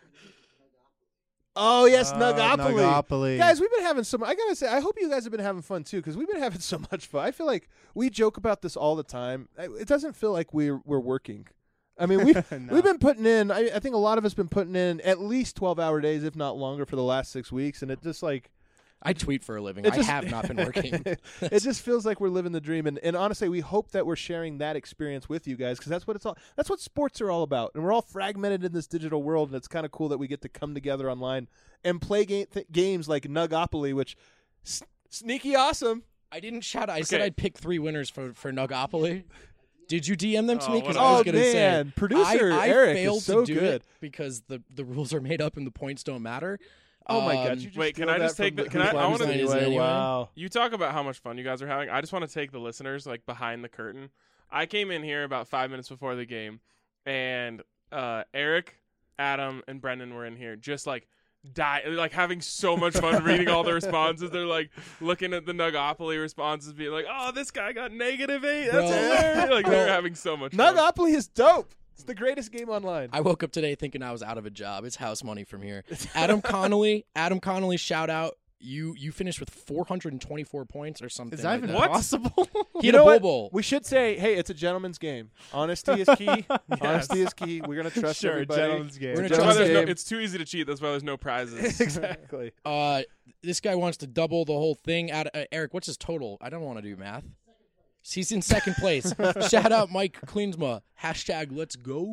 Oh yes, Uh, Nugopoly. Nugopoly. Guys, we've been having some. I gotta say, I hope you guys have been having fun too, because we've been having so much fun. I feel like we joke about this all the time. I- It doesn't feel like we're we're working. I mean, we've No. we've been putting in. I, I think a lot of us been putting in at least twelve hour days, if not longer, for the last six weeks, and it just like I tweet for a living. it I just, have not been working. it just feels like we're living the dream, and, and honestly, we hope that we're sharing that experience with you guys, because that's what it's all. That's what sports are all about, and we're all fragmented in this digital world, and it's kind of cool that we get to come together online and play ga- th- games like Nugopoly, which s- sneaky awesome. I didn't shout out. I said Okay. I'd pick three winners for for Nugopoly. Did you D M them to Oh, me? Because what I was Oh gonna man, say producer I, I Eric failed is so to do good. it because the the rules are made up and the points don't matter. Oh my Um, god! You just wait, can steal I just that from take the- the can I- Whose I Line wanna- Is It Is it Anyway? anyway? Wow. You talk about how much fun you guys are having. I just want to take the listeners like behind the curtain. I came in here about five minutes before the game, and uh, Eric, Adam, and Brendan were in here, just like die, like having so much fun reading all the responses. They're like looking at the Nugopoly responses, being like, "Oh, this guy got negative eight. That's Bro. hilarious!" Like they're Bro. having so much fun. Nugopoly is dope. It's the greatest game online. I woke up today thinking I was out of a job. It's house money from here. Adam Connolly, Adam Connolly, shout out. You you finished with four hundred twenty-four points or something. Is that like even that. What? possible? He You had a know bowl what? bowl. We should say, hey, it's a gentleman's game. Honesty is key. Honesty is key. We're gonna trust Sure, everybody. gentleman's game. It's a We're That's gonna why trust there's no, game. it's too easy to cheat. That's why there's no prizes. exactly. Uh, this guy wants to double the whole thing. Out uh, Eric, what's his total? I don't want to do math. He's in second place. Shout out Mike Klinsma. Hashtag let's go.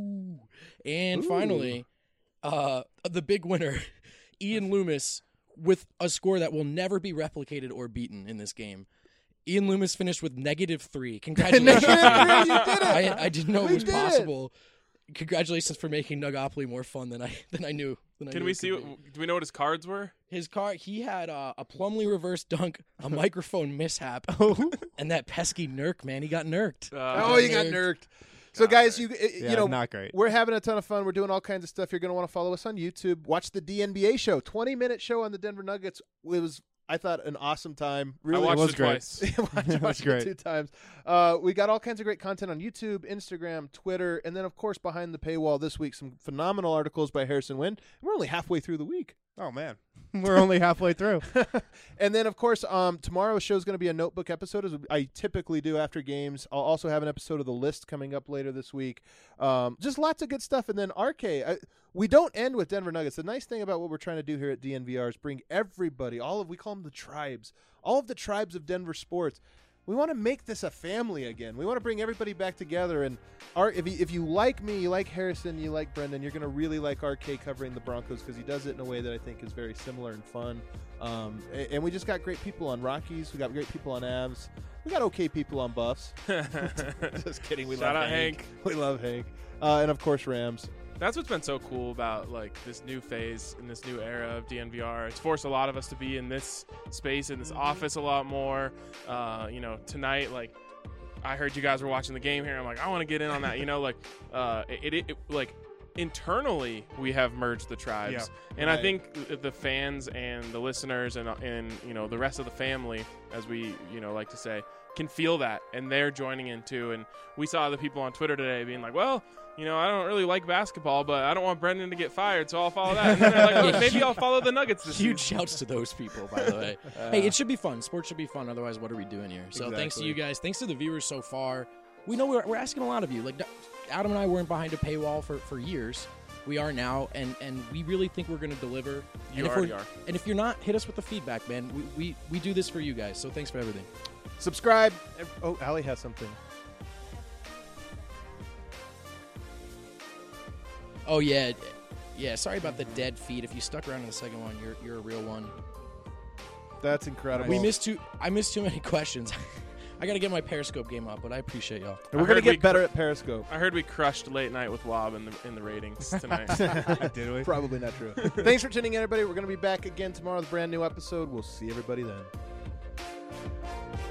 And Ooh. finally, uh, the big winner, Ian Loomis, with a score that will never be replicated or beaten in this game. Ian Loomis finished with negative three. Congratulations. Negative three, Ian. you did it. I, I didn't know We it was did it. possible. Congratulations for making Nugopoly more fun than I than I knew. Than I Can knew we it see? could What, be. do we know what his cards were? His car? He had uh, a Plumlee reverse dunk, a microphone mishap, and that pesky Nurk. Man, he got nurked. Uh, Oh, you got nerked. So, guys, you Yeah, you know, not great. we're having a ton of fun. We're doing all kinds of stuff. You're going to want to follow us on YouTube. Watch the D N B A show, twenty minute show on the Denver Nuggets. It was, I thought, an awesome time. Really, I watched it was it great. twice. Watch- It was watched it great. two times. Uh, we got all kinds of great content on YouTube, Instagram, Twitter, and then, of course, behind the paywall this week, some phenomenal articles by Harrison Wind. We're only halfway through the week. Oh man, we're only halfway through. And then, of course, um, tomorrow's show is going to be a notebook episode, as I typically do after games. I'll also have an episode of The List coming up later this week. Um, just lots of good stuff. And then R K, I, we don't end with Denver Nuggets. The nice thing about what we're trying to do here at D N V R is bring everybody, all of, we call them the tribes, all of the tribes of Denver sports. We want to make this a family again. We want to bring everybody back together. And Art, if you, if you like me, you like Harrison, you like Brendan, you're going to really like R K covering the Broncos because he does it in a way that I think is very similar and fun. Um, and, and we just got great people on Rockies. We got great people on Avs. We got okay people on Buffs. Just kidding. We Shout love out Hank. We love Hank. Uh, and of course Rams. That's what's been so cool about like this new phase in this new era of D N V R. It's forced a lot of us to be in this space, in this office a lot more. Uh, you know, tonight, like I heard you guys were watching the game here. I'm like, I want to get in on that. You know, like uh, it, it, it like internally we have merged the tribes, Yeah. and I Right. think the fans and the listeners and and you know the rest of the family, as we you know like to say, can feel that, and they're joining in too. And we saw the people on Twitter today being like, well, you know, I don't really like basketball, but I don't want Brendan to get fired, so I'll follow that. And then they're like, oh, Yeah, maybe huge- I'll follow the Nuggets this Huge season. shouts to those people, by the way. Hey, it should be fun. Sports should be fun. Otherwise, what are we doing here? So thanks to Exactly. you guys. Thanks to the viewers so far. We know we're, we're asking a lot of you. Like Adam and I weren't behind a paywall for, for years. We are now, and, and we really think we're going to deliver. You and if already we're, are. And if you're not, hit us with the feedback, man. We, we, we do this for you guys. So thanks for everything. Subscribe. Oh, Allie has something. Oh, yeah. Yeah, sorry about the dead feed. If you stuck around in the second one, you're you're a real one. That's incredible. We missed too. I missed too many questions. I got to get my Periscope game up, but I appreciate y'all. And we're I going to heard get we better at Periscope. I heard we crushed Late Night with Wob in the in the ratings tonight. Did we? Probably not true. Thanks for tuning in, everybody. We're going to be back again tomorrow with a brand new episode. We'll see everybody then.